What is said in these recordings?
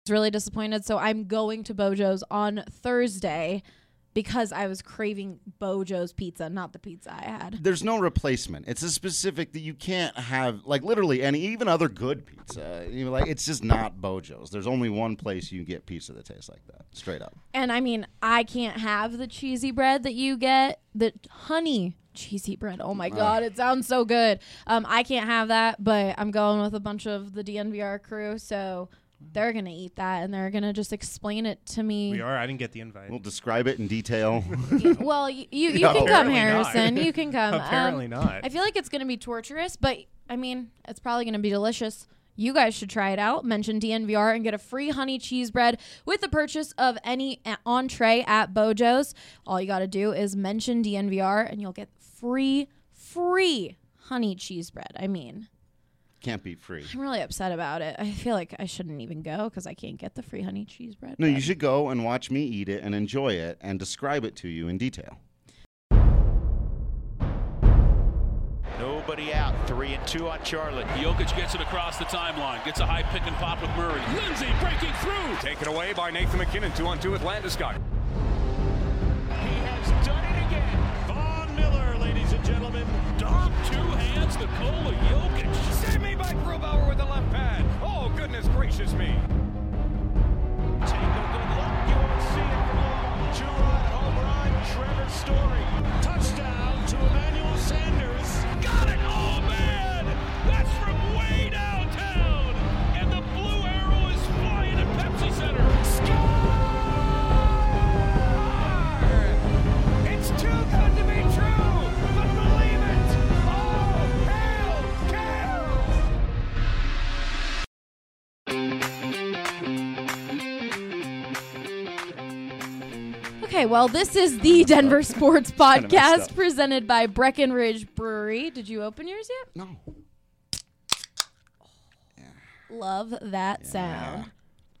really disappointed. So I'm going to Bojo's on Thursday because I was craving Bojo's pizza, not the pizza I had. There's no replacement. It's a specific that you can't have, like literally any, even other good pizza. Like it's just not Bojo's. There's only one place you can get pizza that tastes like that, straight up. And I mean, I can't have the cheesy bread that you get, the honey cheesy bread. Oh my God, it sounds so good. I can't have that, but I'm going with a bunch of the DNVR crew, so they're going to eat that, and they're going to just explain it to me. We are. I didn't get the invite. We'll describe it in detail. Well, you No. can come, Apparently Harrison. not. You can come. Apparently not. I feel like it's going to be torturous, but, I mean, it's probably going to be delicious. You guys should try it out. Mention DNVR and get a free honey cheese bread with the purchase of any entree at Bojo's. All you got to do is mention DNVR, and you'll get free honey cheese bread. I mean, Can't be free. I'm really upset about it. I feel like I shouldn't even go because I can't get the free honey cheese bread. No, you should go and watch me eat it and enjoy it and describe it to you in detail. Nobody out. 3-2 on Charlotte. Jokic gets it across the timeline. Gets a high pick and pop with Murray. Lindsay breaking through. Taken away by Nathan McKinnon. 2-on-2 with Landeskog. He has done it again. Von Miller, ladies and gentlemen. Dom, two hands, Nikola Jokic. Save me by Grubauer with the left pad. Oh, goodness gracious me. Take a good look. You won't see it for long. Two-run home run. Trevor Story. Touchdown to Emmanuel Sanders. Got it! Oh, man! That's from way downtown! And the blue arrow is flying at Pepsi Center. It's too good to be true, but believe it. Oh, hail, Cal! Okay, well, this is the Denver Sports messed Podcast up. presented by Breckenridge Brewery. Did you open yours yet? No. Love that sound.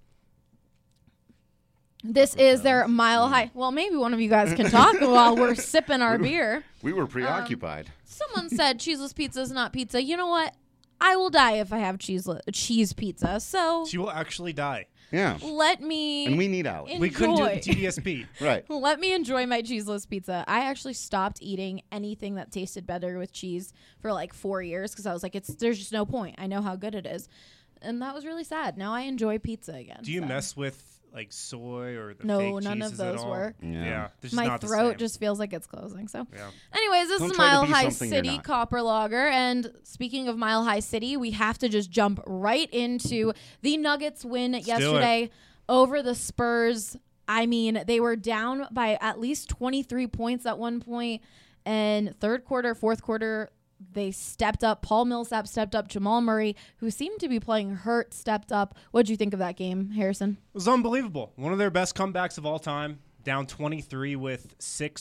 This is their Mile High. Well, maybe one of you guys can talk while we're sipping our beer. We were preoccupied. Someone said cheeseless pizza is not pizza. You know what? I will die if I have cheese pizza. So She will actually die. Yeah. let me And we need out. enjoy. We couldn't do the TDSP. Right. Let me enjoy my cheeseless pizza. I actually stopped eating anything that tasted better with cheese for like 4 years because I was like, there's just no point. I know how good it is. And that was really sad. Now I enjoy pizza again. Do you so. mess with like soy or the No, fake none of cheeses at those all? work. Yeah. This is My not the throat same. just feels like it's closing. So, Yeah. anyways, this Don't is try to Mile be High something you're City not. Copper Lager. And speaking of Mile High City, we have to just jump right into the Nuggets win yesterday over the Spurs. I mean, they were down by at least 23 points at one point. And third quarter, fourth quarter, they stepped up. Paul Millsap stepped up. Jamal Murray, who seemed to be playing hurt, stepped up. What did you think of that game, Harrison? It was unbelievable. One of their best comebacks of all time. Down 23 with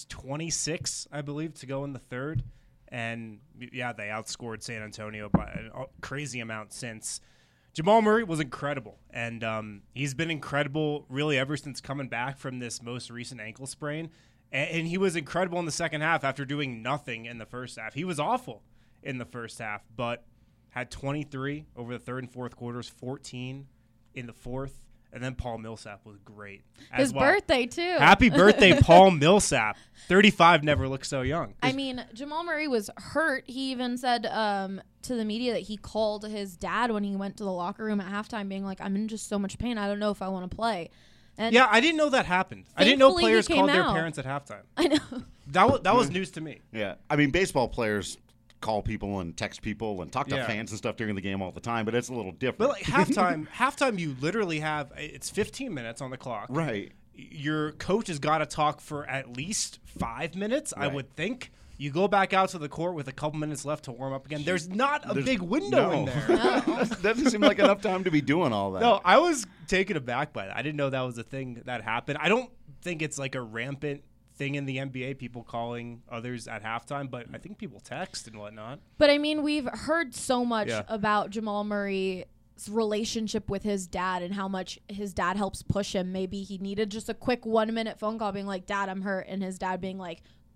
6:26, I believe, to go in the third. And, yeah, they outscored San Antonio by a crazy amount since. Jamal Murray was incredible. And he's been incredible really ever since coming back from this most recent ankle sprain. And he was incredible in the second half after doing nothing in the first half. He was awful in the first half, but had 23 over the third and fourth quarters, 14 in the fourth, and then Paul Millsap was great as His well. birthday, too. Happy birthday, Paul Millsap. 35 never looked so young. I mean, Jamal Murray was hurt. He even said to the media that he called his dad when he went to the locker room at halftime being like, I'm in just so much pain. I don't know if I want to play. And Yeah, I didn't know that happened. I didn't know Thankfully, he players came called their out. parents at halftime. I know. That was news to me. Yeah. I mean, baseball players call people and text people and talk to Yeah. fans and stuff during the game all the time, but it's a little different. But like halftime, you literally have it's 15 minutes on the clock. Right. Your coach has got to talk for at least 5 minutes, I Right. would think. You go back out to the court with a couple minutes left to warm up again. There's not a big window in there. Doesn't seem like enough time to be doing all that. No, I was taken aback by that. I didn't know that was a thing that happened. I don't think it's like a rampant thing in the NBA, people calling others at halftime, but I think people text and whatnot. But, I mean, we've heard so much Yeah. about Jamal Murray's relationship with his dad and how much his dad helps push him. Maybe he needed just a quick 1-minute phone call being like, Dad, I'm hurt. And his dad being like,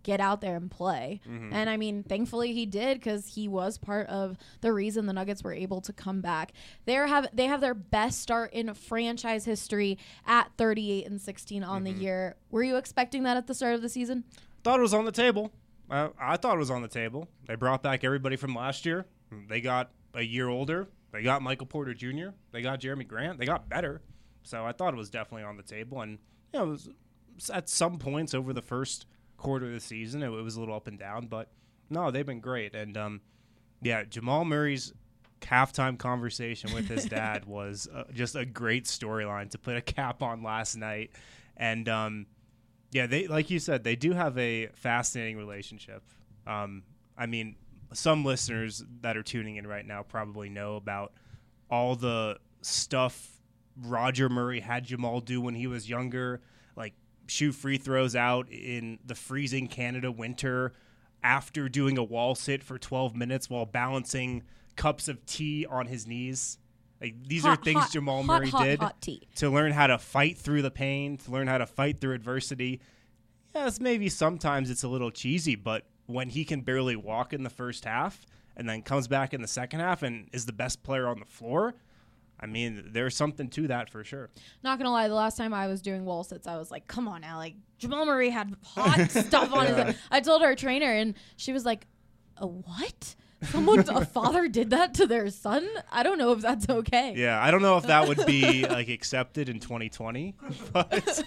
get out there and play. And I mean, thankfully he did, because he was part of the reason the Nuggets were able to come back. They have their best start in franchise history at 38-16 on the year. Were you expecting that at the start of the season? Thought it was on the table. I thought it was on the table. They brought back everybody from last year. They got a year older. They got Michael Porter Jr. They got Jeremy Grant. They got better. So I thought it was definitely on the table. And it was at some points over the first quarter of the season, it was a little up and down. But no, they've been great. And Jamal Murray's halftime conversation with his dad was just a great storyline to put a cap on last night. And they, like you said, they do have a fascinating relationship. I mean, some listeners that are tuning in right now probably know about all the stuff Roger Murray had Jamal do when he was younger, like shoot free throws out in the freezing Canada winter after doing a wall sit for 12 minutes while balancing cups of tea on his knees. Like, these are things Jamal Murray did to learn how to fight through the pain, to learn how to fight through adversity. Yes, maybe sometimes it's a little cheesy, but when he can barely walk in the first half and then comes back in the second half and is the best player on the floor, I mean, there's something to that for sure. Not going to lie, the last time I was doing wall sits, I was like, come on now. Like, Jamal Murray had hot stuff on his. I told our trainer, and she was like, a what? A father did that to their son? I don't know if that's okay. Yeah, I don't know if that would be like accepted in 2020. But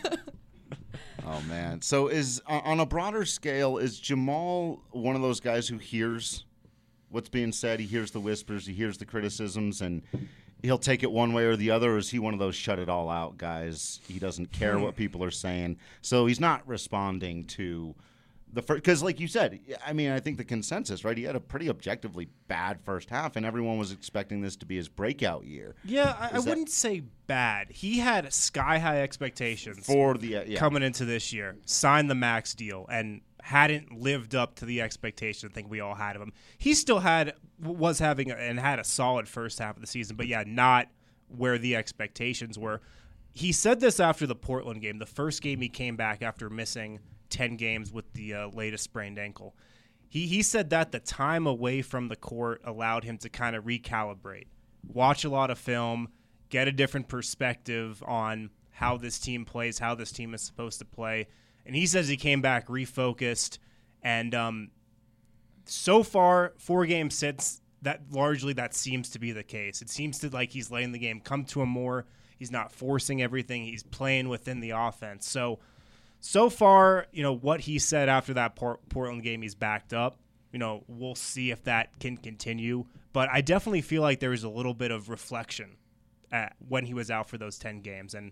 Oh man! So is on a broader scale, is Jamal one of those guys who hears what's being said? He hears the whispers, he hears the criticisms, and he'll take it one way or the other. Or is he one of those shut it all out guys? He doesn't care what people are saying, so he's not responding to the first. Because, like you said, I mean, I think the consensus, right? He had a pretty objectively bad first half, and everyone was expecting this to be his breakout year. Yeah, I wouldn't say bad. He had sky high expectations for the coming into this year. Signed the max deal and hadn't lived up to the expectation I think we all had of him. He still had a solid first half of the season, but yeah, not where the expectations were. He said this after the Portland game, the first game he came back after missing 10 games with the latest sprained ankle. He said that the time away from the court allowed him to kind of recalibrate, watch a lot of film, get a different perspective on how this team plays, how this team is supposed to play. And he says he came back refocused. And so far, 4 games since, that seems to be the case. It seems to like he's letting the game come to him more. He's not forcing everything. He's playing within the offense. So far, what he said after that Portland game, he's backed up. We'll see if that can continue. But I definitely feel like there was a little bit of reflection when he was out for those 10 games. And,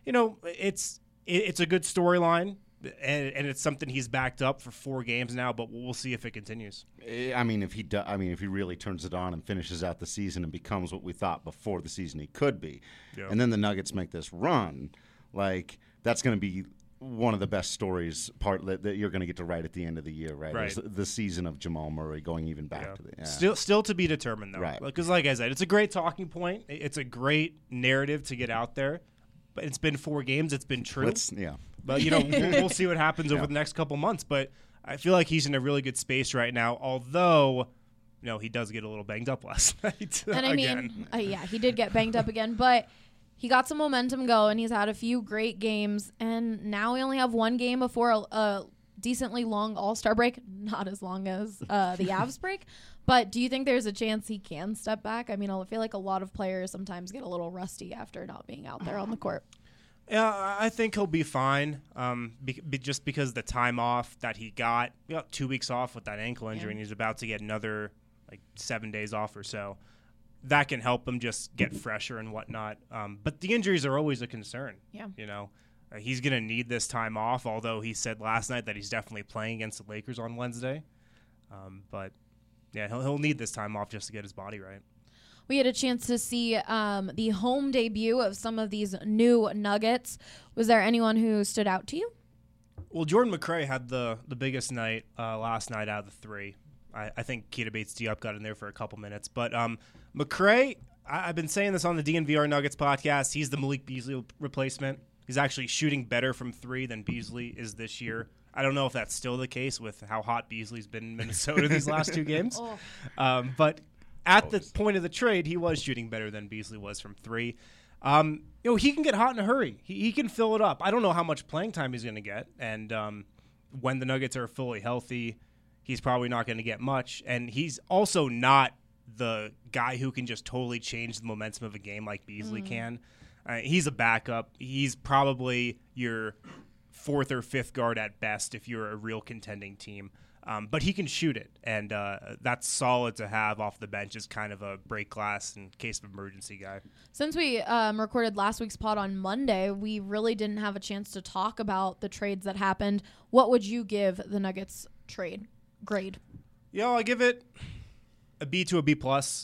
it's a good storyline, and it's something he's backed up for 4 games now, but we'll see if it continues. I mean, if he really turns it on and finishes out the season and becomes what we thought before the season he could be, and then the Nuggets make this run, like, that's going to be one of the best stories that you're going to get to write at the end of the year, right? The season of Jamal Murray going even back to the Still to be determined, though. Right. Because like I said, it's a great talking point. It's a great narrative to get out there. But it's been 4 games. It's been true. But, we'll see what happens over the next couple months. But I feel like he's in a really good space right now, although, he does get a little banged up last night. And I mean, he did get banged up again, but he got some momentum going. He's had a few great games, and now we only have 1 game before a decently long All-Star break. Not as long as the Avs break. But do you think there's a chance he can step back? I mean, I feel like a lot of players sometimes get a little rusty after not being out there on the court. Yeah, I think he'll be fine. Just because the time off that he got 2 weeks off with that ankle injury, and he's about to get another 7 days off or so. That can help him just get fresher and whatnot. But the injuries are always a concern. Yeah. He's going to need this time off, although he said last night that he's definitely playing against the Lakers on Wednesday. But yeah, he'll need this time off just to get his body right. We had a chance to see the home debut of some of these new Nuggets. Was there anyone who stood out to you? Well, Jordan McRae had the biggest night last night out of the 3. I think Keita Bates-Diop got in there for a couple minutes. But McRae, I've been saying this on the DNVR Nuggets podcast, he's the Malik Beasley replacement. He's actually shooting better from 3 than Beasley is this year. I don't know if that's still the case with how hot Beasley's been in Minnesota these last 2 games. But at the point of the trade, he was shooting better than Beasley was from 3. He can get hot in a hurry. He can fill it up. I don't know how much playing time he's going to get. And when the Nuggets are fully healthy, he's probably not going to get much. And he's also not the guy who can just totally change the momentum of a game like Beasley can. He's a backup. He's probably your 4th or 5th guard at best if you're a real contending team. But he can shoot it, and that's solid to have off the bench as kind of a break glass in case of emergency guy. Since we recorded last week's pod on Monday, we really didn't have a chance to talk about the trades that happened. What would you give the Nuggets trade grade? Yeah, I'll give it a B to a B+.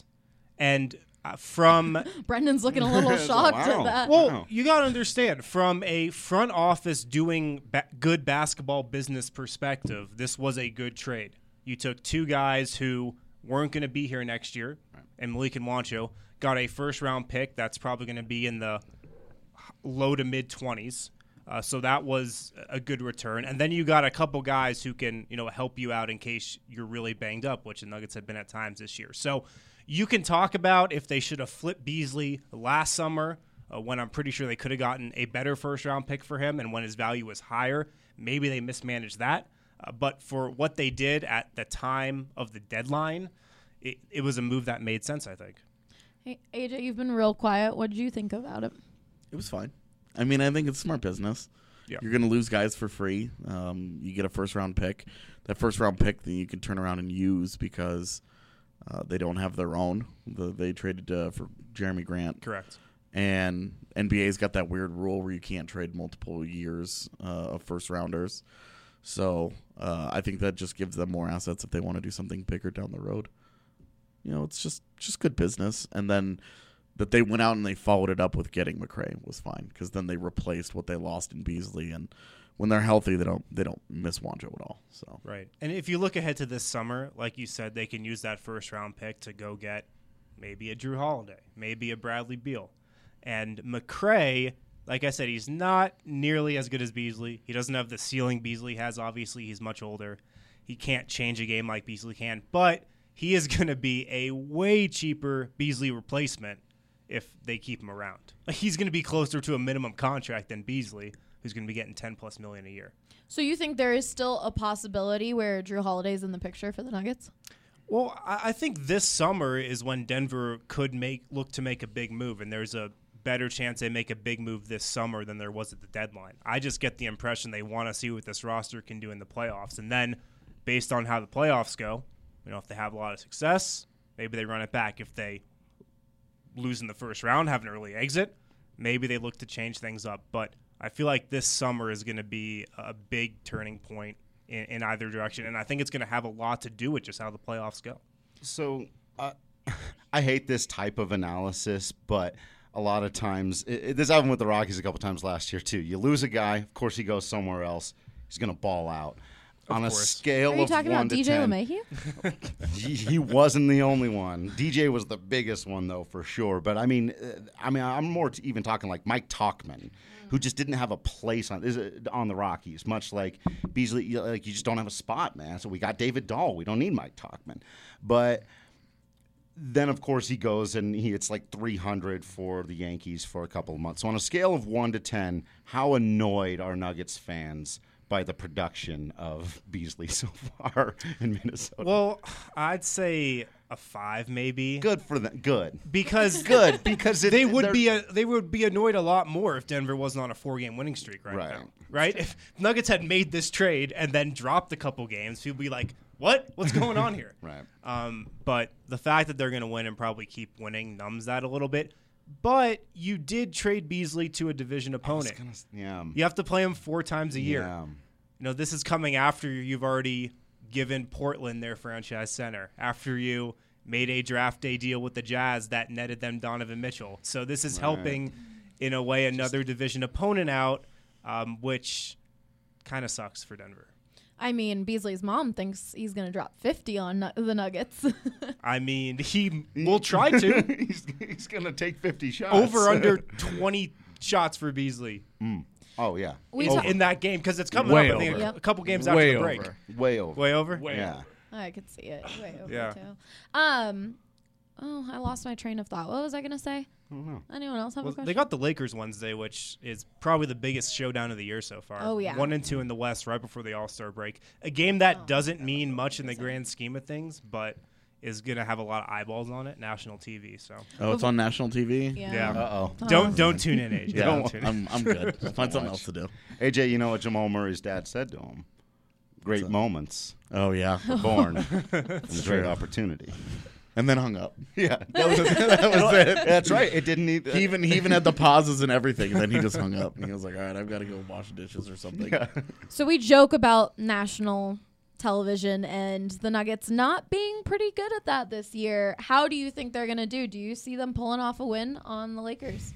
And from Brendan's looking a little shocked at that. Well, you got to understand, from a front office doing good basketball business perspective, this was a good trade. You took 2 guys who weren't going to be here next year, and Malik and Juancho, got a first-round pick that's probably going to be in the low to mid-20s. So that was a good return. And then you got a couple guys who can, help you out in case you're really banged up, which the Nuggets have been at times this year. So you can talk about if they should have flipped Beasley last summer, when I'm pretty sure they could have gotten a better first-round pick for him, and when his value was higher, maybe they mismanaged that. But for what they did at the time of the deadline, it was a move that made sense, I think. Hey, AJ, you've been real quiet. What did you think about it? It was fine. I mean, I think it's smart business. Yeah. You're going to lose guys for free. You get a first-round pick. That first-round pick, then you can turn around and use because they don't have their own. They traded for Jeremy Grant. Correct. And NBA's got that weird rule where you can't trade multiple years of first-rounders. So I think that just gives them more assets if they want to do something bigger down the road. It's just good business. And then that they went out and they followed it up with getting McRae was fine because then they replaced what they lost in Beasley, and when they're healthy, they don't miss Juancho at all. So right, and if you look ahead to this summer, like you said, they can use that first round pick to go get maybe a Drew Holiday, maybe a Bradley Beal, and McRae. Like I said, he's not nearly as good as Beasley. He doesn't have the ceiling Beasley has. Obviously, he's much older. He can't change a game like Beasley can, but he is going to be a way cheaper Beasley replacement if they keep him around. He's going to be closer to a minimum contract than Beasley, who's going to be getting $10+ million a year. So you think there is still a possibility where Drew Holiday's in the picture for the Nuggets? Well, I think this summer is when Denver could look to make a big move, and there's a better chance they make a big move this summer than there was at the deadline. I just get the impression they want to see what this roster can do in the playoffs, and then based on how the playoffs go, if they have a lot of success, maybe they run it back. If they lose in the first round, have an early exit, maybe they look to change things up. But I feel like this summer is going to be a big turning point in either direction, and I think it's going to have a lot to do with just how the playoffs go. So I hate this type of analysis, but a lot of times, this happened with the Rockies a couple times last year too. You lose a guy, of course he goes somewhere else. He's going to ball out. On a scale of 1 to 10. Are you talking about DJ LeMahieu? He wasn't the only one. DJ was the biggest one, though, for sure. But, I'm more even talking like Mike Tauchman, who just didn't have a place on the Rockies, much like Beasley. You just don't have a spot, man. So we got David Dahl. We don't need Mike Tauchman. But then, of course, he goes and it's like 300 for the Yankees for a couple of months. So on a scale of 1 to 10, how annoyed are Nuggets fans by the production of Beasley so far in Minnesota? Well, I'd say a 5 maybe. Good for them. Good. Because they would be annoyed a lot more if Denver wasn't on a 4-game winning streak right now. Right? If Nuggets had made this trade and then dropped a couple games, people would be like, "What? What's going on here?" Right. But the fact that they're going to win and probably keep winning numbs that a little bit. But you did trade Beasley to a division opponent. You have to play him 4 times a year. This is coming after you've already given Portland their franchise center, after you made a draft day deal with the Jazz that netted them Donovan Mitchell. So this is helping, in a way, another division opponent out, which kind of sucks for Denver. I mean, Beasley's mom thinks he's going to drop 50 on the Nuggets. I mean, he will try to. He's going to take 50 shots. Over under 22 shots for Beasley Oh, yeah. in that game because it's coming Way up. I think over. a couple games after Way the break. over. Way over. Way over. Yeah. I could see it way over Yeah. too. Oh, I lost my train of thought. What was I gonna say? I don't know. Anyone else have a Well, question? they got the Lakers Wednesday, which is probably the biggest showdown of the year so far. Oh, yeah. 1-2 in the West right before the All-Star break. A game that doesn't mean much in the grand scheme of things, but is going to have a lot of eyeballs on it, national TV. So Oh, it's on national TV? yeah. Uh-oh. Don't tune in, AJ. Yeah, Don't tune in. I'm good. I'll find something else to do. AJ, you know what Jamal Murray's dad said to him? Great moments Oh, yeah. are born from a great opportunity. And then hung up. Yeah, that was it. That's right. It didn't need. He even had the pauses and everything, and then he just hung up. And he was like, all right, I've got to go wash dishes or something. So we joke about national television and the Nuggets not being pretty good at that this year. How do you think they're going to do? Do you see them pulling off a win on the Lakers?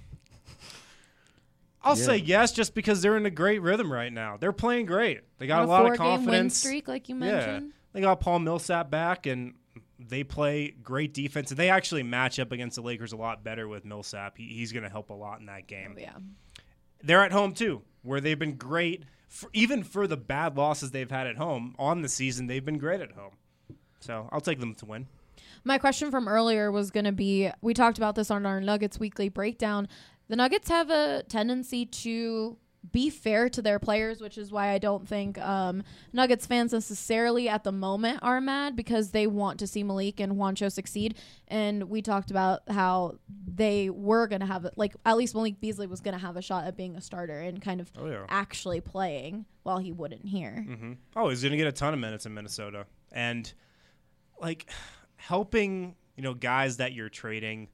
I'll say yes, just because they're in a great rhythm right now. They're playing great. They got a lot of 4-game win confidence. streak, like you Yeah, mentioned. they got Paul Millsap back, and they play great defense. And they actually match up against the Lakers a lot better with Millsap. He's going to help a lot in that game. Oh, yeah. They're at home too, where they've been great. Even for the bad losses they've had at home on the season, they've been great at home. So I'll take them to win. My question from earlier was going to be, we talked about this on our Nuggets weekly breakdown. The Nuggets have a tendency to be fair to their players, which is why I don't think Nuggets fans necessarily at the moment are mad, because they want to see Malik and Juancho succeed. And we talked about how they were going to have, at least Malik Beasley was going to have a shot at being a starter and kind of actually playing while he wouldn't here. Mm-hmm. Oh, he's going to get a ton of minutes in Minnesota. And, helping, guys that you're trading,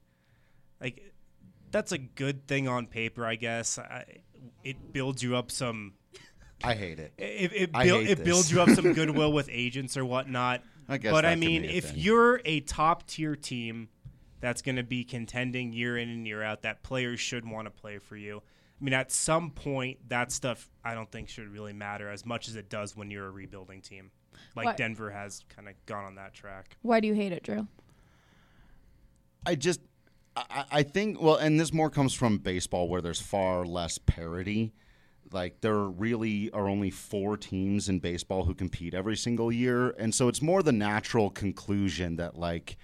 that's a good thing on paper, I guess. It builds you up some. I hate it. It builds you up some goodwill with agents or whatnot. I guess. But that I can mean, be a if thing. you're a top tier team that's going to be contending year in and year out, that players should want to play for you. I mean, at some point, that stuff I don't think should really matter as much as it does when you're a rebuilding team. What? Denver has kind of gone on that track. Why do you hate it, Drew? I think, well, and this more comes from baseball where there's far less parity. There really are only 4 teams in baseball who compete every single year. And so it's more the natural conclusion that,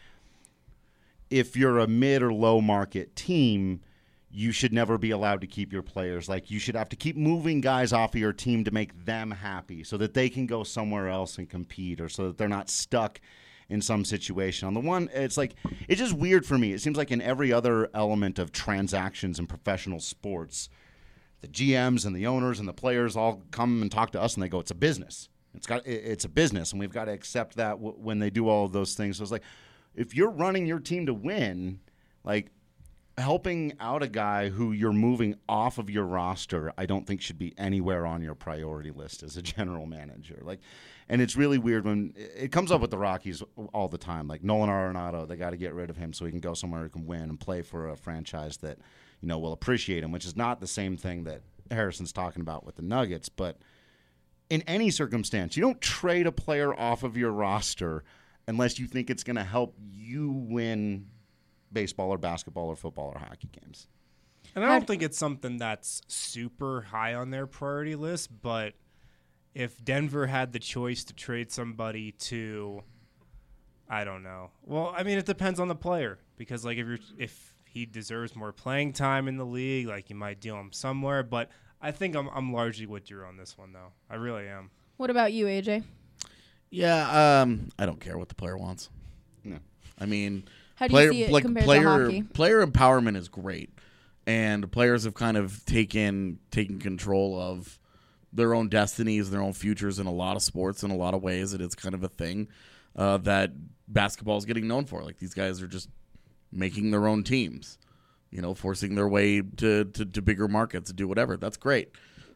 if you're a mid or low market team, you should never be allowed to keep your players. You should have to keep moving guys off of your team to make them happy so that they can go somewhere else and compete, or so that they're not stuck in some situation. On the one, it's just weird for me. It seems like in every other element of transactions in professional sports, the GMs and the owners and the players all come and talk to us and they go, it's a business. It's a business, and we've got to accept that when they do all of those things. So it's if you're running your team to win, helping out a guy who you're moving off of your roster, I don't think should be anywhere on your priority list as a general manager. And it's really weird when it comes up with the Rockies all the time. Nolan Arenado, they got to get rid of him so he can go somewhere he can win and play for a franchise that, will appreciate him, which is not the same thing that Harrison's talking about with the Nuggets. But in any circumstance, you don't trade a player off of your roster unless you think it's going to help you win baseball or basketball or football or hockey games. And I don't think it's something that's super high on their priority list, but if Denver had the choice to trade somebody to, I don't know. Well, I mean, it depends on the player, because if he deserves more playing time in the league, you might deal him somewhere. But I think I'm largely with Drew on this one, though. I really am. What about you, AJ? Yeah, I don't care what the player wants. No. I mean, How do you see it compared to hockey? Player empowerment is great, and players have kind of taken control of their own destinies, their own futures in a lot of sports in a lot of ways, and it's kind of a thing that basketball is getting known for. These guys are just making their own teams, forcing their way to bigger markets to do whatever. That's great.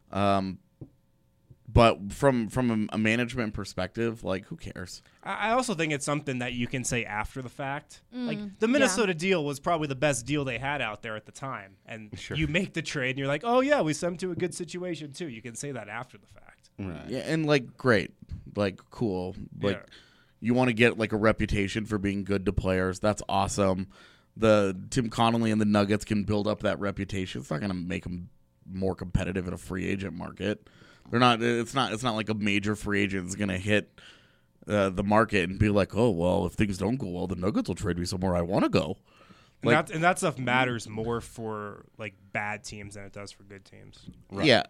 But from a management perspective, who cares? I also think it's something that you can say after the fact. The Minnesota deal was probably the best deal they had out there at the time. And you make the trade and you're like, oh, yeah, we sent them to a good situation, too. You can say that after the fact. Right. Yeah, and great. Cool. You want to get a reputation for being good to players. That's awesome. the Tim Connolly and the Nuggets can build up that reputation. It's not going to make them more competitive in a free agent market. They're not. It's not like a major free agent is going to hit the market and be like, oh well, if things don't go well, the Nuggets will trade me somewhere I want to go. And that stuff matters more for like bad teams than it does for good teams. Right. Yeah,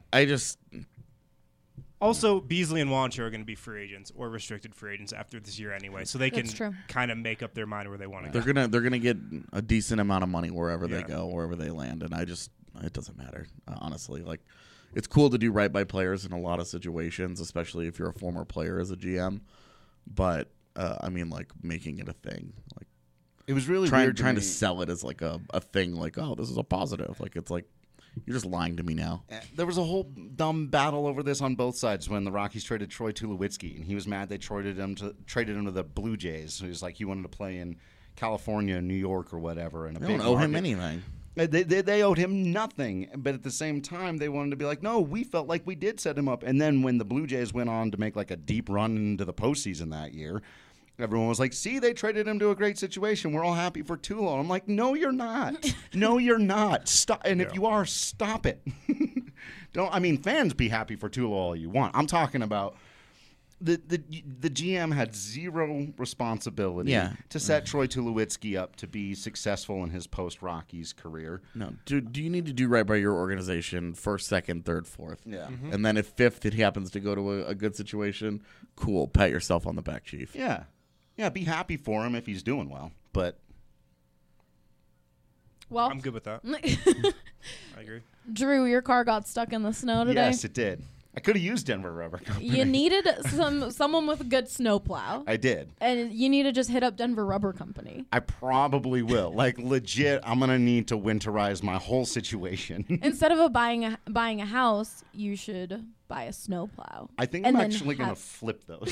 Also, Beasley and Juancho are going to be free agents or restricted free agents after this year anyway, so they can kind of make up their mind where they want to go. They're gonna get a decent amount of money wherever they go, wherever they land, and it doesn't matter, honestly. Like, it's cool to do right by players in a lot of situations, especially if you're a former player as a GM. But I mean, like, making it a thing, like, it was really trying weird to sell it as like a thing, like, oh, this is a positive. Like, it's like, you're just lying to me now. There was a whole dumb battle over this on both sides when the Rockies traded Troy Tulowitzki, and he was mad they traded him to the Blue Jays. He was like, he wanted to play in California, New York, or whatever. And they don't owe him anything. They owed him nothing, but at the same time, they wanted to be like, no, we felt like we did set him up. And then when the Blue Jays went on to make like a deep run into the postseason that year, everyone was like, see, they traded him to a great situation. We're all happy for Tulo. I'm like, no, you're not. No, you're not. Stop. And if you are, stop it. Fans be happy for Tulo all you want. I'm talking about the GM had zero responsibility to set Troy Tulowitzki up to be successful in his post-Rockies career. No. Do you need to do right by your organization first, second, third, fourth? Yeah. Mm-hmm. And then if fifth it happens to go to a good situation, cool. Pat yourself on the back, Chief. Yeah. Yeah, be happy for him if he's doing well. But I'm good with that. I agree. Drew, your car got stuck in the snow today. Yes, it did. I could have used Denver Rubber Company. You needed someone with a good snowplow. I did. And you need to just hit up Denver Rubber Company. I probably will. Like, legit, I'm going to need to winterize my whole situation. Instead of buying a house, you should buy a snowplow. I think I'm actually going to flip those.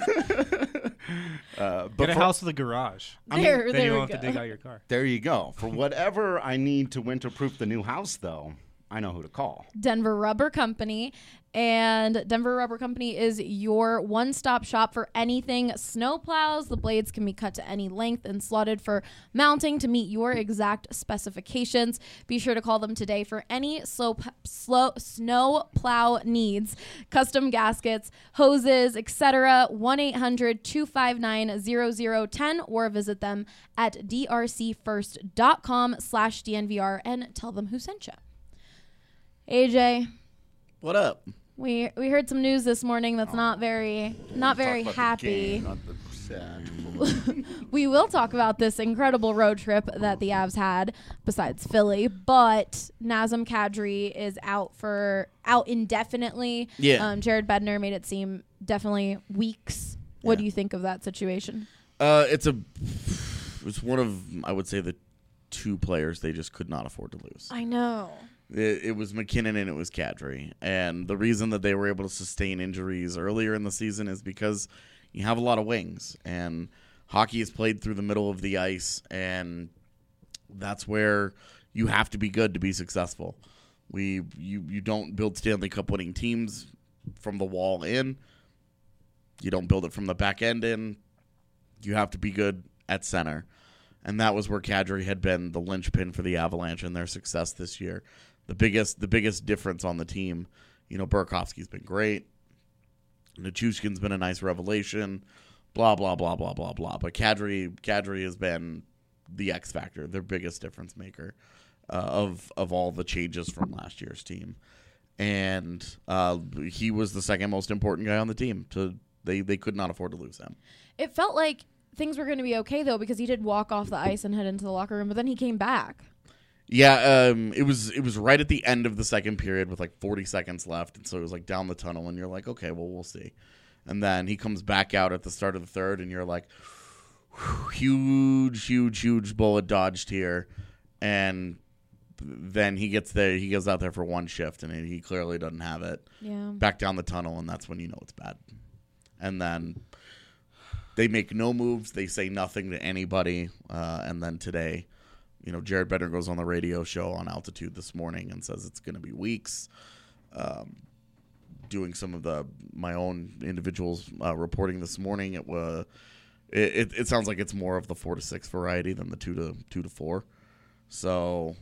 Get a house with a garage. Then you don't have to dig out your car. There you go. For whatever I need to winterproof the new house, though, I know who to call. Denver Rubber Company. And Denver Rubber Company is your one-stop shop for anything snowplows. The blades can be cut to any length and slotted for mounting to meet your exact specifications. Be sure to call them today for any snow plow needs. Custom gaskets, hoses, etc. 1-800-259-0010 or visit them at drcfirst.com/DNVR and tell them who sent you. AJ. What up? We heard some news this morning that's not very happy. We will talk about this incredible road trip that the Avs had besides Philly, but Nazem Kadri is out indefinitely. Yeah. Jared Bednar made it seem definitely weeks. What do you think of that situation? It's one of, I would say, the two players they just could not afford to lose. I know. It was McKinnon and it was Kadri. And the reason that they were able to sustain injuries earlier in the season is because you have a lot of wings. And hockey is played through the middle of the ice, and that's where you have to be good to be successful. You don't build Stanley Cup winning teams from the wall in. You don't build it from the back end in. You have to be good at center. And that was where Kadri had been the linchpin for the Avalanche and their success this year. The biggest difference on the team, Burakovsky's been great. Nichushkin's been a nice revelation. Blah, blah, blah, blah, blah, blah. But Kadri has been the X factor, their biggest difference maker of all the changes from last year's team. And he was the second most important guy on the team. They could not afford to lose him. It felt like things were going to be okay, though, because he did walk off the ice and head into the locker room, but then he came back. Yeah, it was right at the end of the second period with like 40 seconds left, and so it was like down the tunnel, and you're like, okay, well, we'll see. And then he comes back out at the start of the third, and you're like, huge bullet dodged here. And then he gets there, he goes out there for one shift, and he clearly doesn't have it. Yeah. Back down the tunnel, and that's when you know it's bad. And then they make no moves. They say nothing to anybody. And then today, Jared Bednar goes on the radio show on Altitude this morning and says it's going to be weeks. Doing some of my own individuals reporting this morning, it sounds like it's more of the 4 to 6 variety than the 2 to 4. So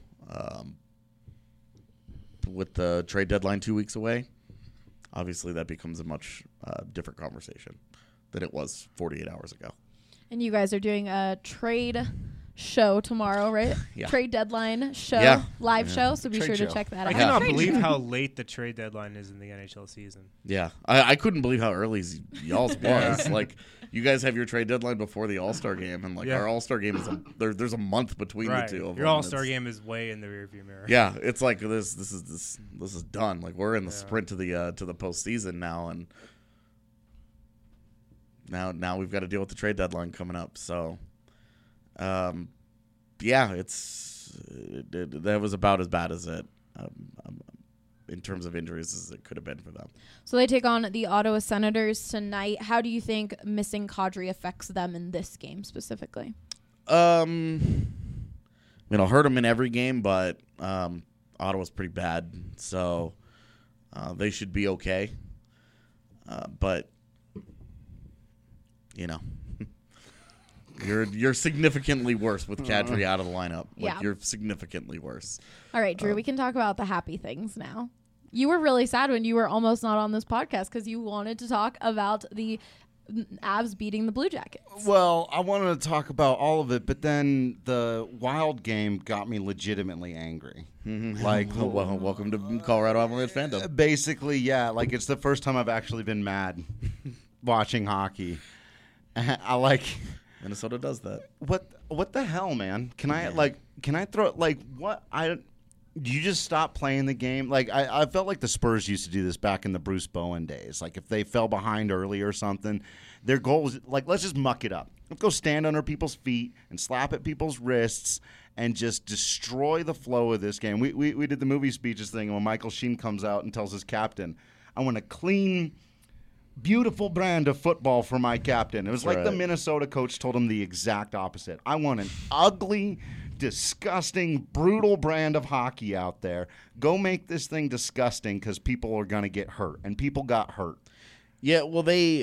with the trade deadline 2 weeks away, obviously that becomes a much different conversation than it was 48 hours ago. And you guys are doing a trade show tomorrow, right? Yeah. Trade deadline show, live show. So be Trade sure show. to check that I out. cannot believe how late the trade deadline is in the NHL season. Yeah, I couldn't believe how early y'all's was. Like, you guys have your trade deadline before the All-Star game, and like our All-Star game is there's a month between the two of them. Your All-Star game is way in the rearview mirror. Yeah, it's like this is done. Like, we're in the sprint to the postseason now, and now we've got to deal with the trade deadline coming up. So, yeah, that was about as bad as it in terms of injuries as it could have been for them. So they take on the Ottawa Senators tonight. How do you think missing Kadri affects them in this game specifically? It'll hurt them in every game, but Ottawa's pretty bad, so they should be okay. But you're significantly worse with Kadri out of the lineup. Like, Yeah. you're significantly worse. All right, Drew, we can talk about the happy things now. You were really sad when you were almost not on this podcast because you wanted to talk about the Avs beating the Blue Jackets. Well, I wanted to talk about all of it, but then the Wild game got me legitimately angry. Like, Well, welcome to Colorado Avalanche fandom. basically, yeah. Like, it's the first time I've actually been mad watching hockey. I like. Minnesota does that. What the hell, man? Can I throw what you just stop playing the game? Like, I felt like the Spurs used to do this back in the Bruce Bowen days. Like, if they fell behind early or something, their goal was like, let's just muck it up. Let's go stand under people's feet and slap at people's wrists and just destroy the flow of this game. We did the movie speeches thing when Michael Sheen comes out and tells his captain, I want a clean, beautiful brand of football for my captain. It was like the Minnesota coach told him the exact opposite. I want an ugly, disgusting, brutal brand of hockey out there. Go make this thing disgusting because people are going to get hurt. And people got hurt. Yeah, well,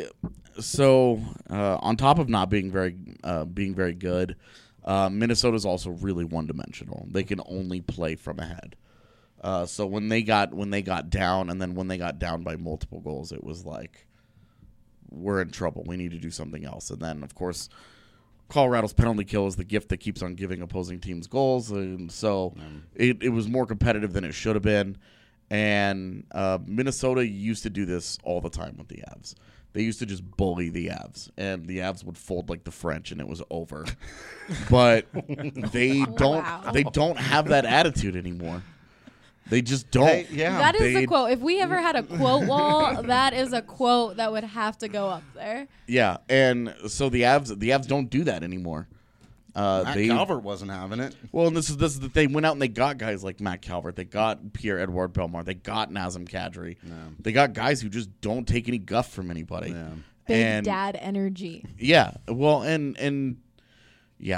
on top of not being very good, Minnesota's also really one-dimensional. They can only play from ahead. So when they got down, and then when they got down by multiple goals, it was like, we're in trouble. We need to do something else. And then, of course, Colorado's penalty kill is the gift that keeps on giving opposing teams goals. And so it was more competitive than it should have been. And Minnesota used to do this all the time with the Avs. They used to just bully the Avs, and the Avs would fold like the French, and it was over. But they don't have that attitude anymore. They just don't. That is a quote. If we ever had a quote wall, that is a quote that would have to go up there. Yeah, and so the Avs don't do that anymore. Matt Calvert wasn't having it. Well, and this is the thing. Went out and they got guys like Matt Calvert. They got Pierre-Edouard Bellemare. They got Nazem Kadri. Yeah. They got guys who just don't take any guff from anybody. Yeah. Big dad energy. Yeah. Well, and yeah,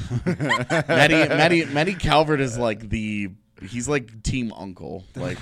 Matty Calvert is like he's like team uncle. Like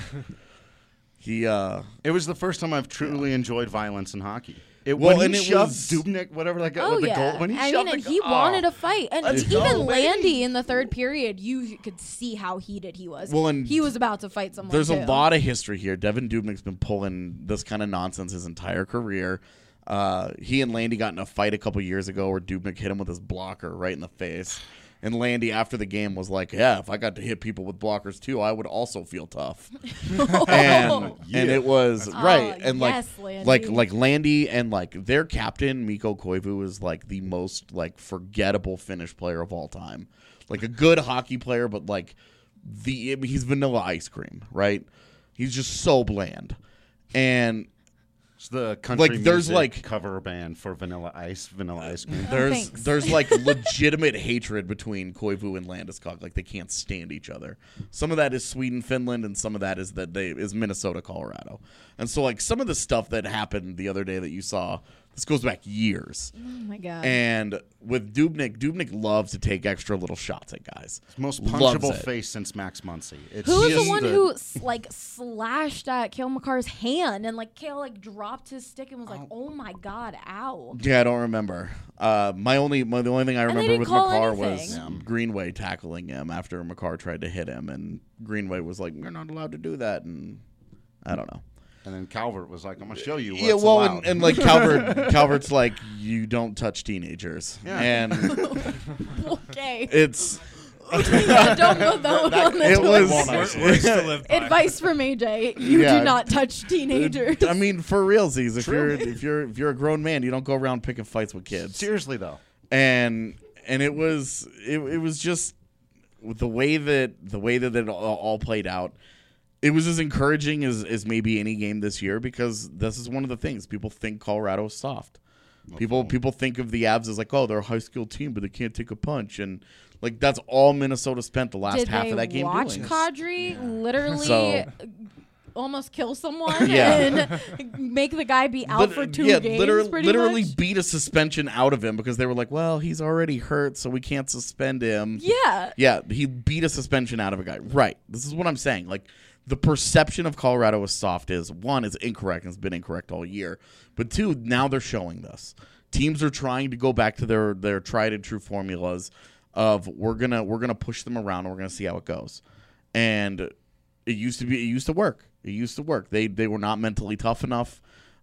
it was the first time I've truly enjoyed violence in hockey. When he shoved Dubnyk, whatever that guy with the goal. When he shoved and he wanted a fight. And even Landy in the third period, you could see how heated he was. Well, and he was about to fight someone. There's a lot of history here. Devin Dubnyk's been pulling this kind of nonsense his entire career. He and Landy got in a fight a couple years ago where Dubnyk hit him with his blocker right in the face. And Landy, after the game, was like, yeah, if I got to hit people with blockers, too, I would also feel tough. And it was, right. And yes, like Landy and, like, their captain, Mikko Koivu, is, like, the most, like, forgettable Finnish player of all time. Like, a good hockey player, but, like, he's vanilla ice cream, right? He's just so bland. And it's the country there's music cover band for Vanilla Ice Cream. There's like legitimate hatred between Koivu and Landeskog. Like, they can't stand each other. Some of that is Sweden, Finland, and some of that is Minnesota, Colorado. And so, like, some of the stuff that happened the other day that you saw, This goes back years. Oh my god. And with Dubnyk loves to take extra little shots at guys. Most Loves punchable it. face since Max Muncy. It's Who was just the one who slashed at Cale Makar's hand and Cale dropped his stick and was like, "Oh my god, ow!" Yeah, I don't remember. The only thing I remember didn't with call Makar anything. was Greenway tackling him after Makar tried to hit him, and Greenway was like, "You're not allowed to do that," and I don't know. And then Calvert was like, "I'm gonna show you what's Yeah, well, allowed." and Calvert's like, "You don't touch teenagers," Yeah. and Okay. it's Don't go though. it was. Words to live by. Advice from AJ: You Yeah. do not touch teenagers. I mean, for realsies, if you're a grown man, you don't go around picking fights with kids. Seriously though, And it was just the way that it all played out. It was as encouraging as maybe any game this year, because this is one of the things people think Colorado is soft. People think of the Avs as like, oh, they're a high school team, but they can't take a punch, and that's all Minnesota spent the last Did half they of that game watch doing. Kadri literally So- almost kill someone Yeah. and make the guy be out for 2 games? Literally much? beat a suspension out of him because they were like, well, he's already hurt, so we can't suspend him. Yeah. Yeah, he beat a suspension out of a guy. Right. This is what I'm saying. The perception of Colorado as soft is, one, is incorrect and has been incorrect all year. But two, now they're showing this. Teams are trying to go back to their tried and true formulas of we're gonna push them around and we're gonna see how it goes. And it used to work. They were not mentally tough enough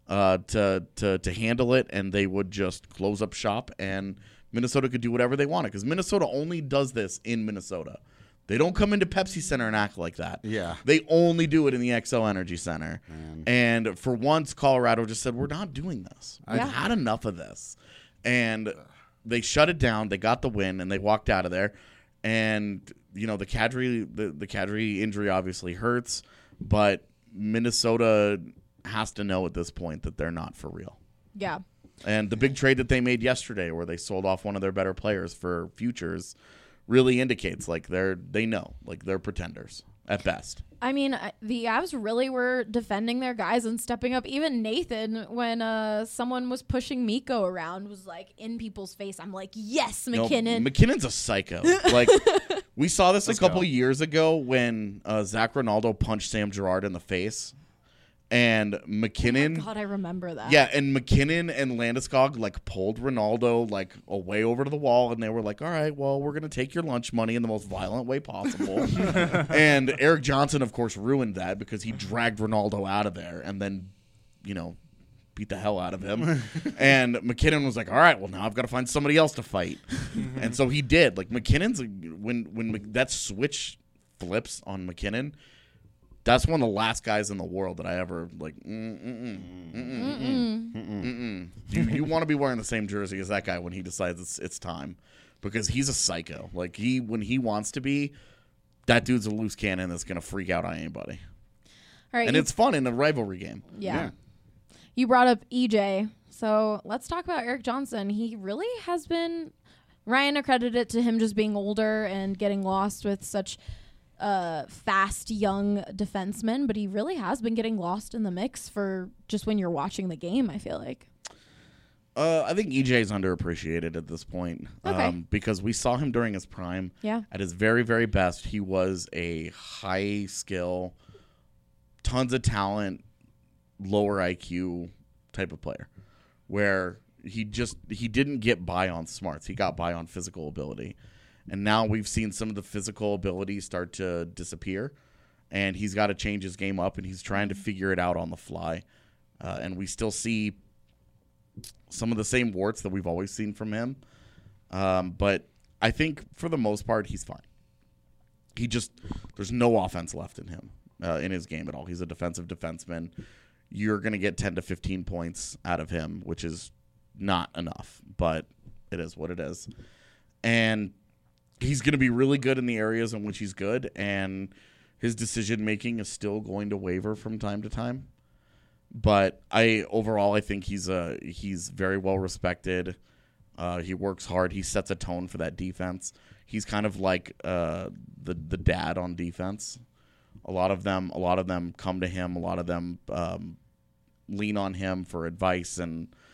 to handle it, and they would just close up shop, and Minnesota could do whatever they wanted, because Minnesota only does this in Minnesota. They don't come into Pepsi Center and act like that. Yeah. They only do it in the XL Energy Center. And for once, Colorado just said, we're not doing this. I've Yeah. had enough of this. And they shut it down. They got the win, and they walked out of there. And, the Kadri injury obviously hurts, but Minnesota has to know at this point that they're not for real. Yeah. And the big trade that they made yesterday, where they sold off one of their better players for futures, really indicates they know they're pretenders at best. I mean, the Avs really were defending their guys and stepping up. Even Nathan, when someone was pushing Mikko around, was in people's face. I'm like, yes, McKinnon. McKinnon's a psycho. We saw this a couple years ago when Zach Ronaldo punched Sam Girard in the face. And McKinnon, Oh my God, I remember that. yeah, and McKinnon and Landeskog pulled Ronaldo away over to the wall, and they were like, "All right, well, we're gonna take your lunch money in the most violent way possible." And Eric Johnson, of course, ruined that because he dragged Ronaldo out of there and then, beat the hell out of him. And McKinnon was like, "All right, well, now I've got to find somebody else to fight," and so he did. McKinnon's when that switch flips on McKinnon. That's one of the last guys in the world that I ever You want to be wearing the same jersey as that guy when he decides it's time, because he's a psycho. When he wants to be, that dude's a loose cannon that's gonna freak out on anybody. All right. And it's fun in a rivalry game. Yeah. You brought up EJ, so let's talk about Eric Johnson. He really has been. Ryan accredited it to him just being older and getting lost with such fast young defenseman, but he really has been getting lost in the mix for just when you're watching the game, I feel like. I think EJ is underappreciated at this point, Okay. because we saw him during his prime. Yeah. At his very, very best, he was a high skill, tons of talent, lower IQ type of player, where he didn't get by on smarts. He got by on physical ability. And now we've seen some of the physical abilities start to disappear, and he's got to change his game up, and he's trying to figure it out on the fly. And we still see some of the same warts that we've always seen from him. But I think for the most part, he's fine. There's no offense left in him, in his game at all. He's a defensive defenseman. You're going to get 10 to 15 points out of him, which is not enough, but it is what it is. And he's going to be really good in the areas in which he's good, and his decision-making is still going to waver from time to time. But overall, I think he's very well respected. He works hard. He sets a tone for that defense. He's kind of like the dad on defense. A lot of them come to him. A lot of them lean on him for advice and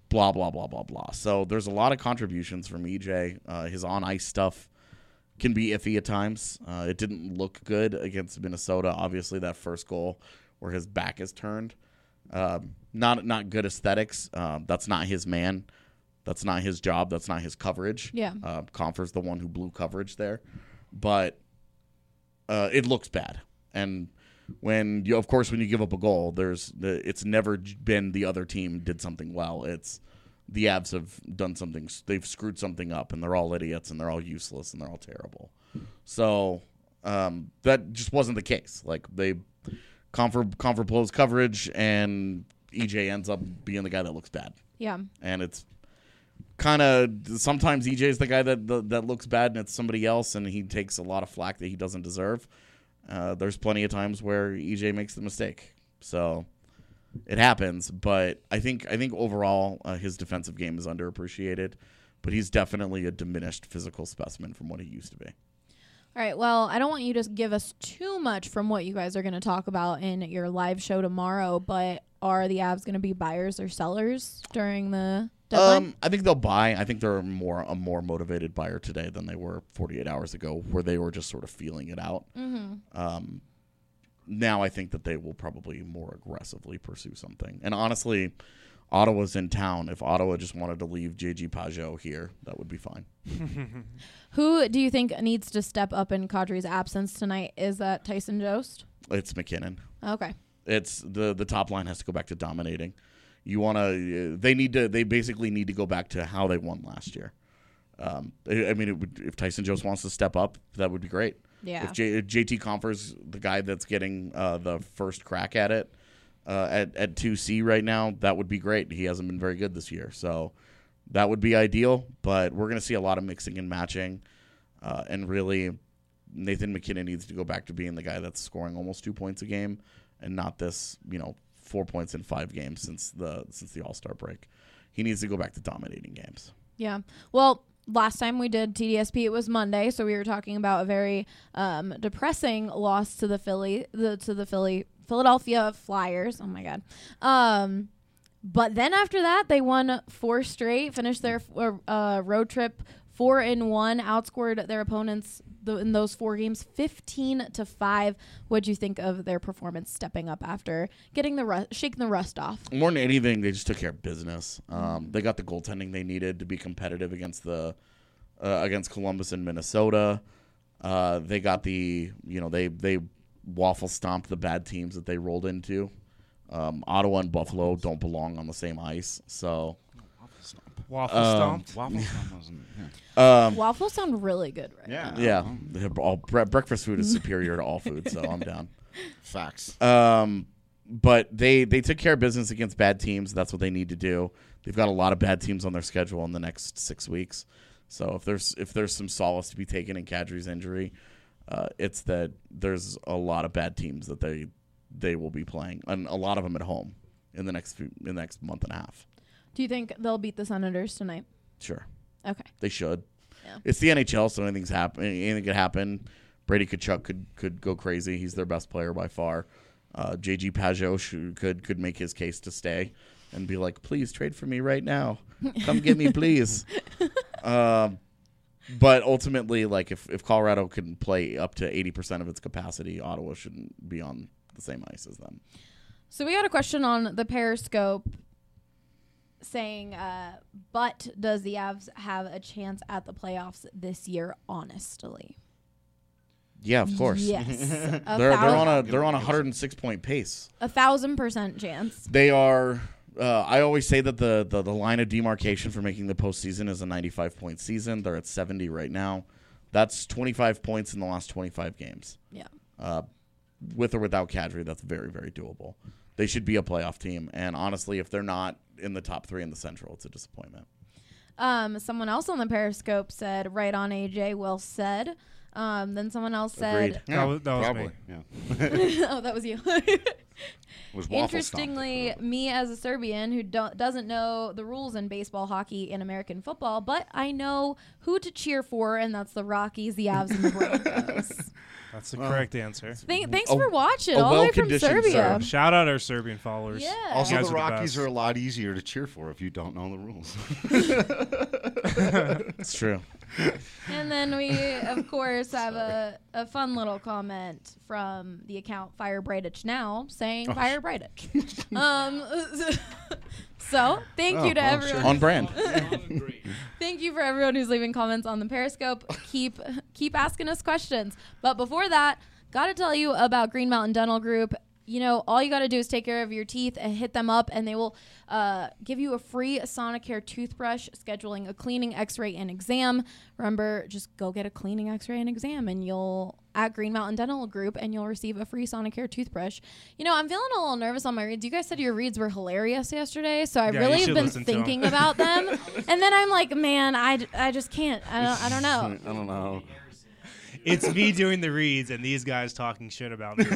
blah, blah, blah, blah, blah. So there's a lot of contributions from EJ. His on-ice stuff can be iffy at times. It didn't look good against Minnesota. Obviously, that first goal where his back is turned. Not good aesthetics. That's not his man. That's not his job. That's not his coverage. Yeah. Confer's the one who blew coverage there. But it looks bad. And when you give up a goal, it's never been the other team did something well. It's the Avs have done something. They've screwed something up, and they're all idiots, and they're all useless, and they're all terrible. So that just wasn't the case. Like Confer blows coverage, and EJ ends up being the guy that looks bad. Yeah. And it's kind of sometimes EJ is the guy that looks bad, and it's somebody else, and he takes a lot of flack that he doesn't deserve. There's plenty of times where EJ makes the mistake. So it happens, but I think overall his defensive game is underappreciated, but he's definitely a diminished physical specimen from what he used to be. All right, well, I don't want you to give us too much from what you guys are going to talk about in your live show tomorrow, but are the Avs going to be buyers or sellers during the deadline? I think they'll buy. I think they're a more motivated buyer today than they were 48 hours ago, where they were just sort of feeling it out. Mm-hmm. Now I think that they will probably more aggressively pursue something. And honestly, Ottawa's in town. If Ottawa just wanted to leave J.G. Pajot here, that would be fine. Who do you think needs to step up in Kadri's absence tonight? Is that Tyson Jost? It's McKinnon. Okay. It's the top line has to go back to dominating. They basically need to go back to how they won last year. If Tyson Jost wants to step up, that would be great. Yeah. If JT Confer's the guy that's getting the first crack at it at 2C right now, that would be great. He hasn't been very good this year, so that would be ideal. But we're going to see a lot of mixing and matching, and really, Nathan McKinnon needs to go back to being the guy that's scoring almost 2 points a game, and not this 4 points in 5 games since the All-Star break. He needs to go back to dominating games. Yeah. Well, last time we did TDSP, it was Monday, so we were talking about a very depressing loss to the Philadelphia Flyers. Oh my God. But then after that, they won 4 straight, finished their road trip 4-1, outscored their opponents in those 4 games 15-5. What'd you think of their performance stepping up after getting shaking the rust off? More than anything, they just took care of business. They got the goaltending they needed to be competitive against Columbus and Minnesota. They got they waffle stomped the bad teams that they rolled into. Ottawa and Buffalo don't belong on the same ice, so. Waffle stomped. Waffle stomp wasn't. Waffles sound really good right now. Yeah. Breakfast food is superior to all food, so I'm down. Facts. But they took care of business against bad teams. That's what they need to do. They've got a lot of bad teams on their schedule in the next 6 weeks. So if there's some solace to be taken in Kadri's injury, it's that there's a lot of bad teams that they will be playing, and a lot of them at home in the next month and a half. Do you think they'll beat the Senators tonight? Sure. Okay. They should. Yeah. It's the NHL, so anything could happen. Brady Tkachuk could go crazy. He's their best player by far. J.G. Pajot could make his case to stay and be like, please trade for me right now. Come get me, please. But ultimately, like if Colorado can play up to 80% of its capacity, Ottawa shouldn't be on the same ice as them. So we got a question on the Periscope saying, but does the Avs have a chance at the playoffs this year, honestly? Yeah, of course. Yes. They're on a 106-point pace. 1,000% chance. They are. I always say that the line of demarcation for making the postseason is a 95-point season. They're at 70 right now. That's 25 points in the last 25 games. Yeah. With or without Kadri, that's very, very doable. They should be a playoff team. And honestly, if they're not in the top 3 in the Central, it's a disappointment. Someone else on the Periscope said, right on, AJ, well said. Then someone else said... Agreed. That was probably. me. Yeah. Oh, that was you. Was waffle Interestingly, me as a Serbian who doesn't know the rules in baseball, hockey, and American football, but I know who to cheer for, and that's the Rockies, the Avs, and the Broncos. That's the correct answer. Thanks for watching a all the way from well-conditioned Serbia. serve. Shout out our Serbian followers. Yeah. Also, You guys the are the Rockies best. are a lot easier to cheer for if you don't know the rules. It's true. And then we, of course, have a fun little comment from the account Fire Braidich Now saying Fire Braidich. So thank you to everyone. On brand. Thank you for everyone who's leaving comments on the Periscope. Keep asking us questions. But before that, gotta tell you about Green Mountain Dental Group. You know, all you got to do is take care of your teeth and hit them up, and they will give you a free Sonicare toothbrush, scheduling a cleaning, x-ray, and exam. Remember, just go get a cleaning, x-ray, and exam, and you'll at Green Mountain Dental Group, and you'll receive a free Sonicare toothbrush. You know, I'm feeling a little nervous on my reads. You guys said your reads were hilarious yesterday, so I Yeah, really you have should been listen to 'em. thinking about them. And then I'm like, man, I just can't. I don't know. I don't know. It's me doing the reads and these guys talking shit about me.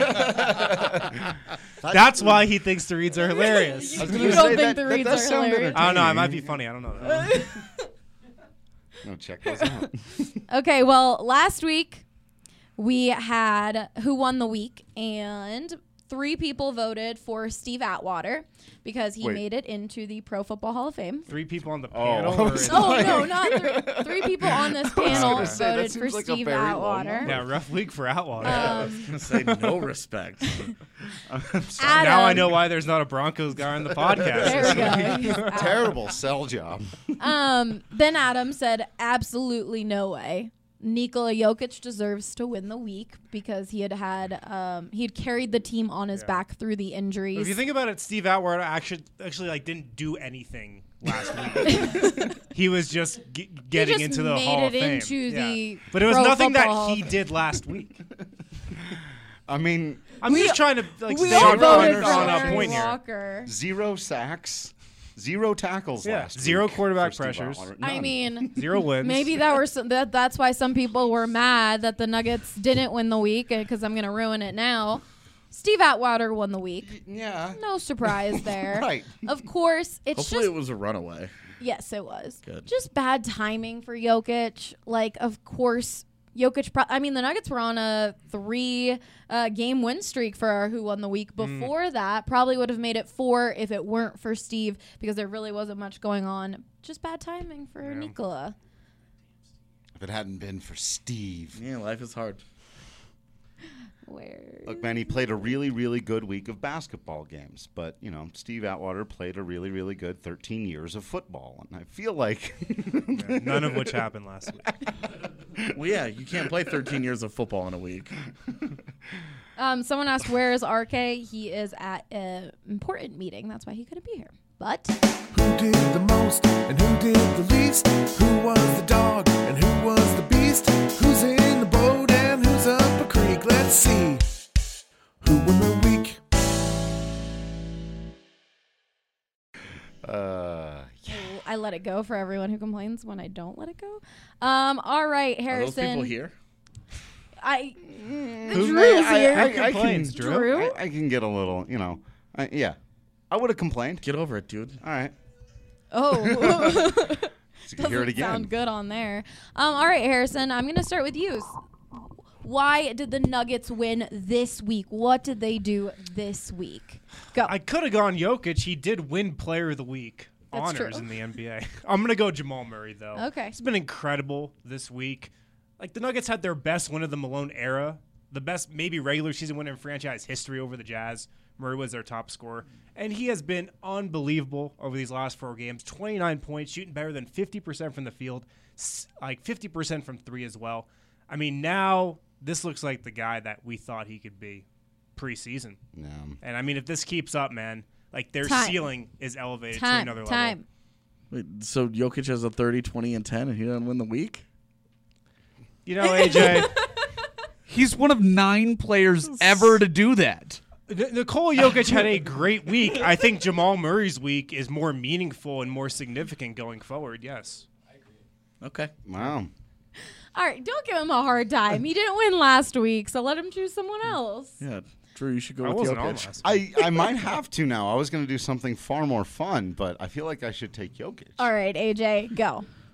That's why he thinks the reads are hilarious. I was You gonna don't say think the reads does are sound hilarious? I don't know. It entertaining. might be funny. I don't know. No, check those out. Okay, well, last week we had Who Won the Week, and 3 people voted for Steve Atwater because he Wait. made it into the Pro Football Hall of Fame. 3 people on the Oh, panel. I or was is- Oh, no, not 3 people on this panel gonna say, that voted seems for like a Steve very low Atwater. number. yeah, rough week for Atwater. I was gonna say no respect. Adam, Now I know why there's not a Broncos guy on the podcast. There we go. He's out. Terrible sell job. Then Adam said, absolutely no way. Nikola Jokic deserves to win the week because he had carried the team on his back through the injuries. If you think about it, Steve Atwater actually like didn't do anything last week. He was just getting just into the made Hall of it Fame. into the But it was Pro nothing that Football Hall he of did last week. I mean, I'm just trying to we stay all on voted for on a Larry point here. Walker. 0 sacks, 0 tackles Yeah, last 0 week quarterback for Steve pressures. Atwater. I None. mean, 0 wins. maybe that's why some people were mad that the Nuggets didn't win the week, because I'm going to ruin it now. Steve Atwater won the week. Yeah. No surprise there. Right. Of course, it's Hopefully just it was a runaway. yes, it was. Good. Just bad timing for Jokic. Like, of course, Jokic. The Nuggets were on a 3-game win streak for Who Won the Week. Before that, probably would have made it 4 if it weren't for Steve, because there really wasn't much going on. Just bad timing for Nikola. If it hadn't been for Steve. Yeah, life is hard. Where? Look, man, he played a really, really good week of basketball games. But, you know, Steve Atwater played a really, really good 13 years of football. And I feel like Yeah, none of which happened last week. Well, yeah, you can't play 13 years of football in a week. Someone asked, where is RK? He is at an important meeting. That's why he couldn't be here. But Who did the most and who did the least? Who was the dog and who was the beast? Who's in the boat and who's up a creek? Let's see. Who won the week? I let it go for everyone who complains when I don't let it go. All right, Are those Harrison. people here? Drew's I- here. I- I complains, can- Drew? I can get a little, you know. Yeah. I would have complained. Get over it, dude. All right. Oh. So you can hear it Doesn't again. sound good on there. All right, Harrison, I'm going to start with you. Why did the Nuggets win this week? What did they do this week? Go. I could have gone Jokic. He did win Player of the Week That's honors true. in the NBA. I'm going to go Jamal Murray, though. Okay. He's been incredible this week. Like, the Nuggets had their best win of the Malone era, the best maybe regular season win in franchise history over the Jazz. Murray was their top scorer. And he has been unbelievable over these last 4 games. 29 points, shooting better than 50% from the field, like 50% from 3 as well. I mean, now this looks like the guy that we thought he could be preseason. Yeah. And, I mean, if this keeps up, man, like their Time. ceiling is elevated to Time. another Time. level. Wait, so Jokic has a 30, 20, and 10, and he doesn't win the week? You know, AJ, He's one of 9 players ever to do that. Nikola Jokic had a great week. I think Jamal Murray's week is more meaningful and more significant going forward, yes. Okay. Wow. All right, don't give him a hard time. He didn't win last week, so let him choose someone else. Yeah, Drew, you should go I with wasn't on Jokic. last. I might have to now. I was going to do something far more fun, but I feel like I should take Jokic. All right, AJ, go.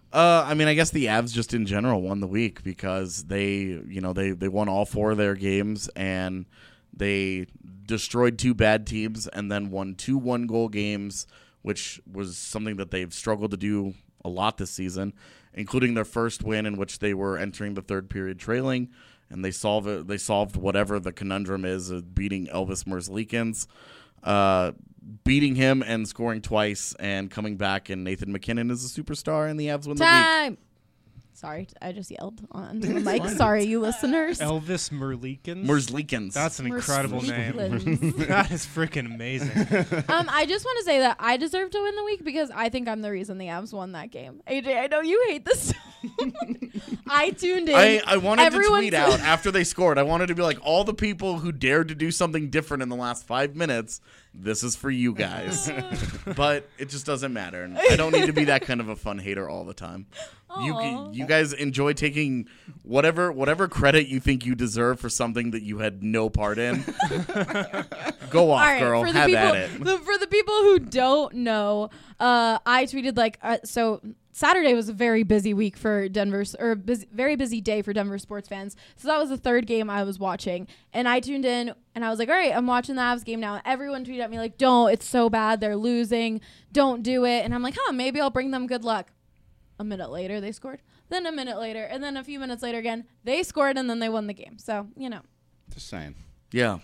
I mean, I guess the Avs just in general won the week because they won all 4 of their games and they destroyed 2 bad teams and then won 2 1-goal games, which was something that they've struggled to do a lot this season, including their first win in which they were entering the third period trailing, and they solved whatever the conundrum is of beating Elvis Merzlikins, beating him and scoring twice and coming back, and Nathan McKinnon is a superstar, and the Avs win the week. Sorry, I just yelled onto the mic. Sorry, you listeners. Elvis Merzlikins? Merzlikins. That's an incredible name. That is freaking amazing. I just want to say that I deserve to win the week because I think I'm the reason the Avs won that game. AJ, I know you hate this. I tuned in. I wanted to tweet out after they scored. I wanted to be like, all the people who dared to do something different in the last 5 minutes, this is for you guys. But it just doesn't matter. And I don't need to be that kind of a fun hater all the time. You guys enjoy taking whatever credit you think you deserve for something that you had no part in. Go off, right, girl. Have at it. For the people who don't know, I tweeted so Saturday was a very busy week for very busy day for Denver sports fans. So that was the third game I was watching, and I tuned in and I was like, all right, I'm watching the Avs game now. Everyone tweeted at me like, don't, it's so bad, they're losing, don't do it. And I'm like, maybe I'll bring them good luck. A minute later, they scored. Then a minute later, and then a few minutes later again, they scored, and then they won the game. So, Just saying. Yeah.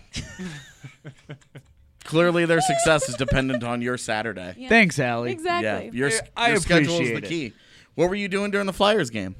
Clearly, their success is dependent on your Saturday. Yeah. Thanks, Allie. Exactly. Yeah, your schedule is the key. What were you doing during the Flyers game?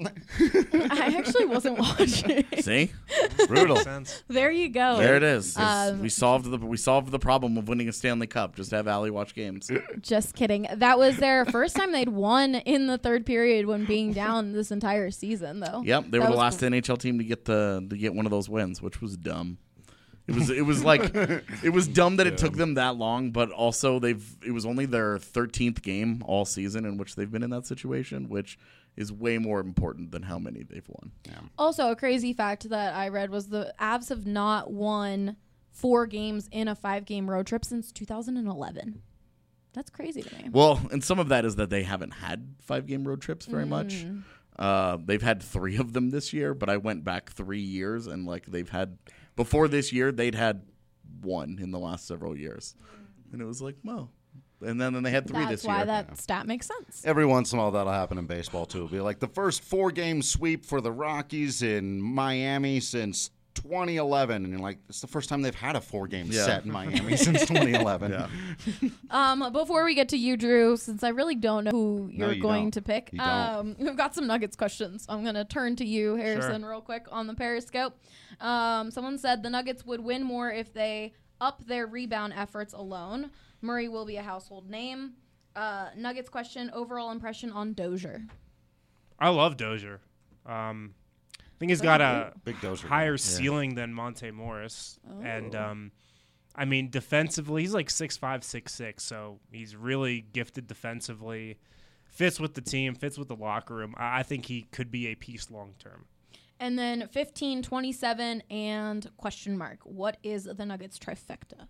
I actually wasn't watching. See? Brutal. There you go. There it is. We solved the problem of winning a Stanley Cup. Just have Allie watch games. Just kidding. That was their first time they'd won in the third period when being down this entire season, though. Yep, they were the last NHL team to get one of those wins, which was dumb. It was dumb that it took them that long, but also it was only their 13th game all season in which they've been in that situation, which is way more important than how many they've won. Yeah. Also, a crazy fact that I read was the Avs have not won 4 games in a 5-game road trip since 2011. That's crazy to me. Well, and some of that is that they haven't had 5-game road trips very much. They've had 3 of them this year, but I went back 3 years, and before this year, they'd had 1 in the last several years. And it was like, well. And then they had 3 this year. That's why that stat makes sense. Every once in a while, that'll happen in baseball, too. It'll be like the first 4-game sweep for the Rockies in Miami since 2011. And you're like, it's the first time they've had a 4-game set in Miami since 2011. Before we get to you, Drew, since I really don't know who you're going to pick, don't. we've got some Nuggets questions. I'm going to turn to you, Harrison, real quick on the Periscope. Someone said the Nuggets would win more if they up their rebound efforts alone. Murray will be a household name. Nuggets question, overall impression on Dozier. I love Dozier. I think he's got a big Dozier higher ceiling than Monte Morris. Oh. And, I mean, defensively, he's like 6'5", 6'6", so he's really gifted defensively. Fits with the team, fits with the locker room. I think he could be a piece long term. And then 15, 27, and question mark. What is the Nuggets trifecta?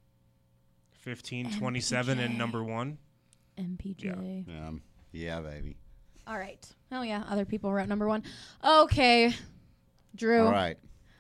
15, 27, and number 1. MPJ. Yeah, baby. All right. Oh, yeah. Other people wrote number 1. Okay. Drew. All right.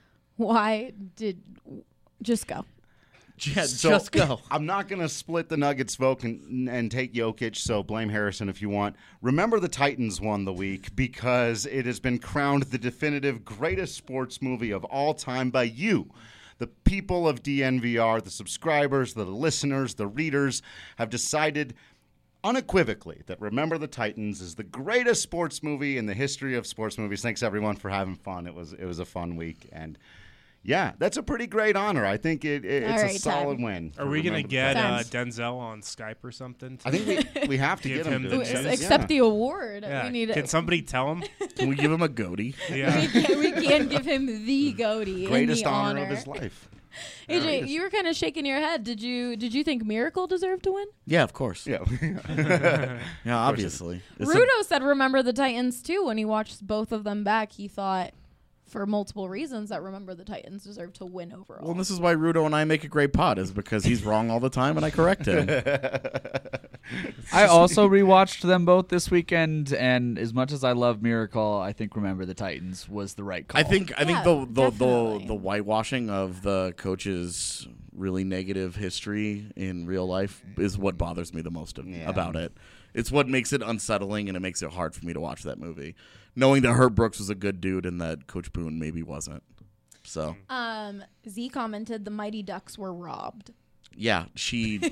Just go. Just go. I'm not going to split the Nuggets vote and take Jokic, so blame Harrison if you want. Remember the Titans won the week because it has been crowned the definitive greatest sports movie of all time by you. The people of DNVR, the subscribers, the listeners, the readers have decided unequivocally that Remember the Titans is the greatest sports movie in the history of sports movies. Thanks, everyone, for having fun. It was a fun week. And, yeah, that's a pretty great honor. I think it's a solid win. Are we going to get Denzel on Skype or something? I think we have to get him to accept the award. Yeah. Can somebody tell him? Can we give him a goatee? Yeah. we can give him the goatee. Greatest the honor of his life. AJ, you were kind of shaking your head. Did you think Miracle deserved to win? Yeah, of course. Yeah, yeah, obviously. Rudo said Remember the Titans too. When he watched both of them back, he thought, for multiple reasons, that Remember the Titans deserve to win overall. Well, this is why Rudo and I make a great pod, is because he's wrong all the time and I correct him. I also rewatched them both this weekend, and as much as I love Miracle, I think Remember the Titans was the right call. I think Yeah, the definitely. whitewashing of the coach's really negative history in real life is what bothers me the most about it. It's what makes it unsettling, and it makes it hard for me to watch that movie, knowing that Herb Brooks was a good dude and that Coach Boone maybe wasn't. So Z commented the Mighty Ducks were robbed. yeah, she.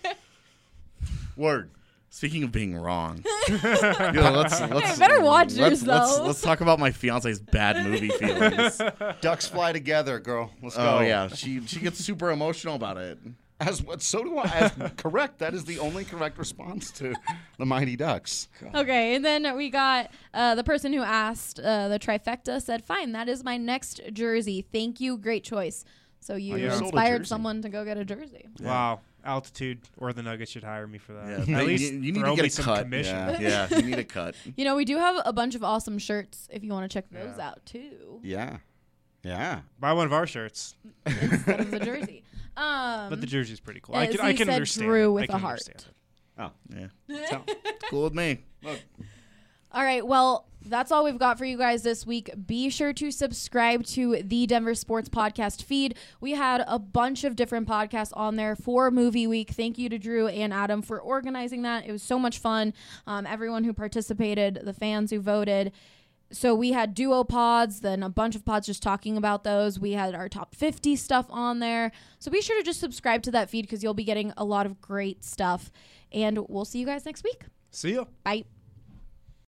Word. Speaking of being wrong, let's better watch yours, though. Let's talk about my fiance's bad movie feelings. Ducks fly together, girl. Let's Oh go. yeah, she gets super emotional about it. So do I. Correct. That is the only correct response to the Mighty Ducks. Okay, and then we got the person who asked the trifecta said, "Fine, that is my next jersey. Thank you, great choice." So you you sold a inspired jersey. someone to go get a jersey. Wow. Altitude or the Nuggets should hire me for that. Yeah, At least you need throw to get me a some cut. commission. Yeah, you need a cut. You know, we do have a bunch of awesome shirts if you want to check those out too. Yeah. Yeah. Buy one of our shirts. Instead of the jersey. But the jersey's pretty cool. as I he can said, understand. Drew it. with I can a heart. understand it. Oh. Yeah, it's cool with me. All right, well, that's all we've got for you guys this week. Be sure to subscribe to the Denver Sports Podcast feed. We had a bunch of different podcasts on there for Movie Week. Thank you to Drew and Adam for organizing that. It was so much fun. Everyone who participated, the fans who voted. So we had duo pods, then a bunch of pods just talking about those. We had our top 50 stuff on there. So be sure to just subscribe to that feed because you'll be getting a lot of great stuff. And we'll see you guys next week. See ya. Bye.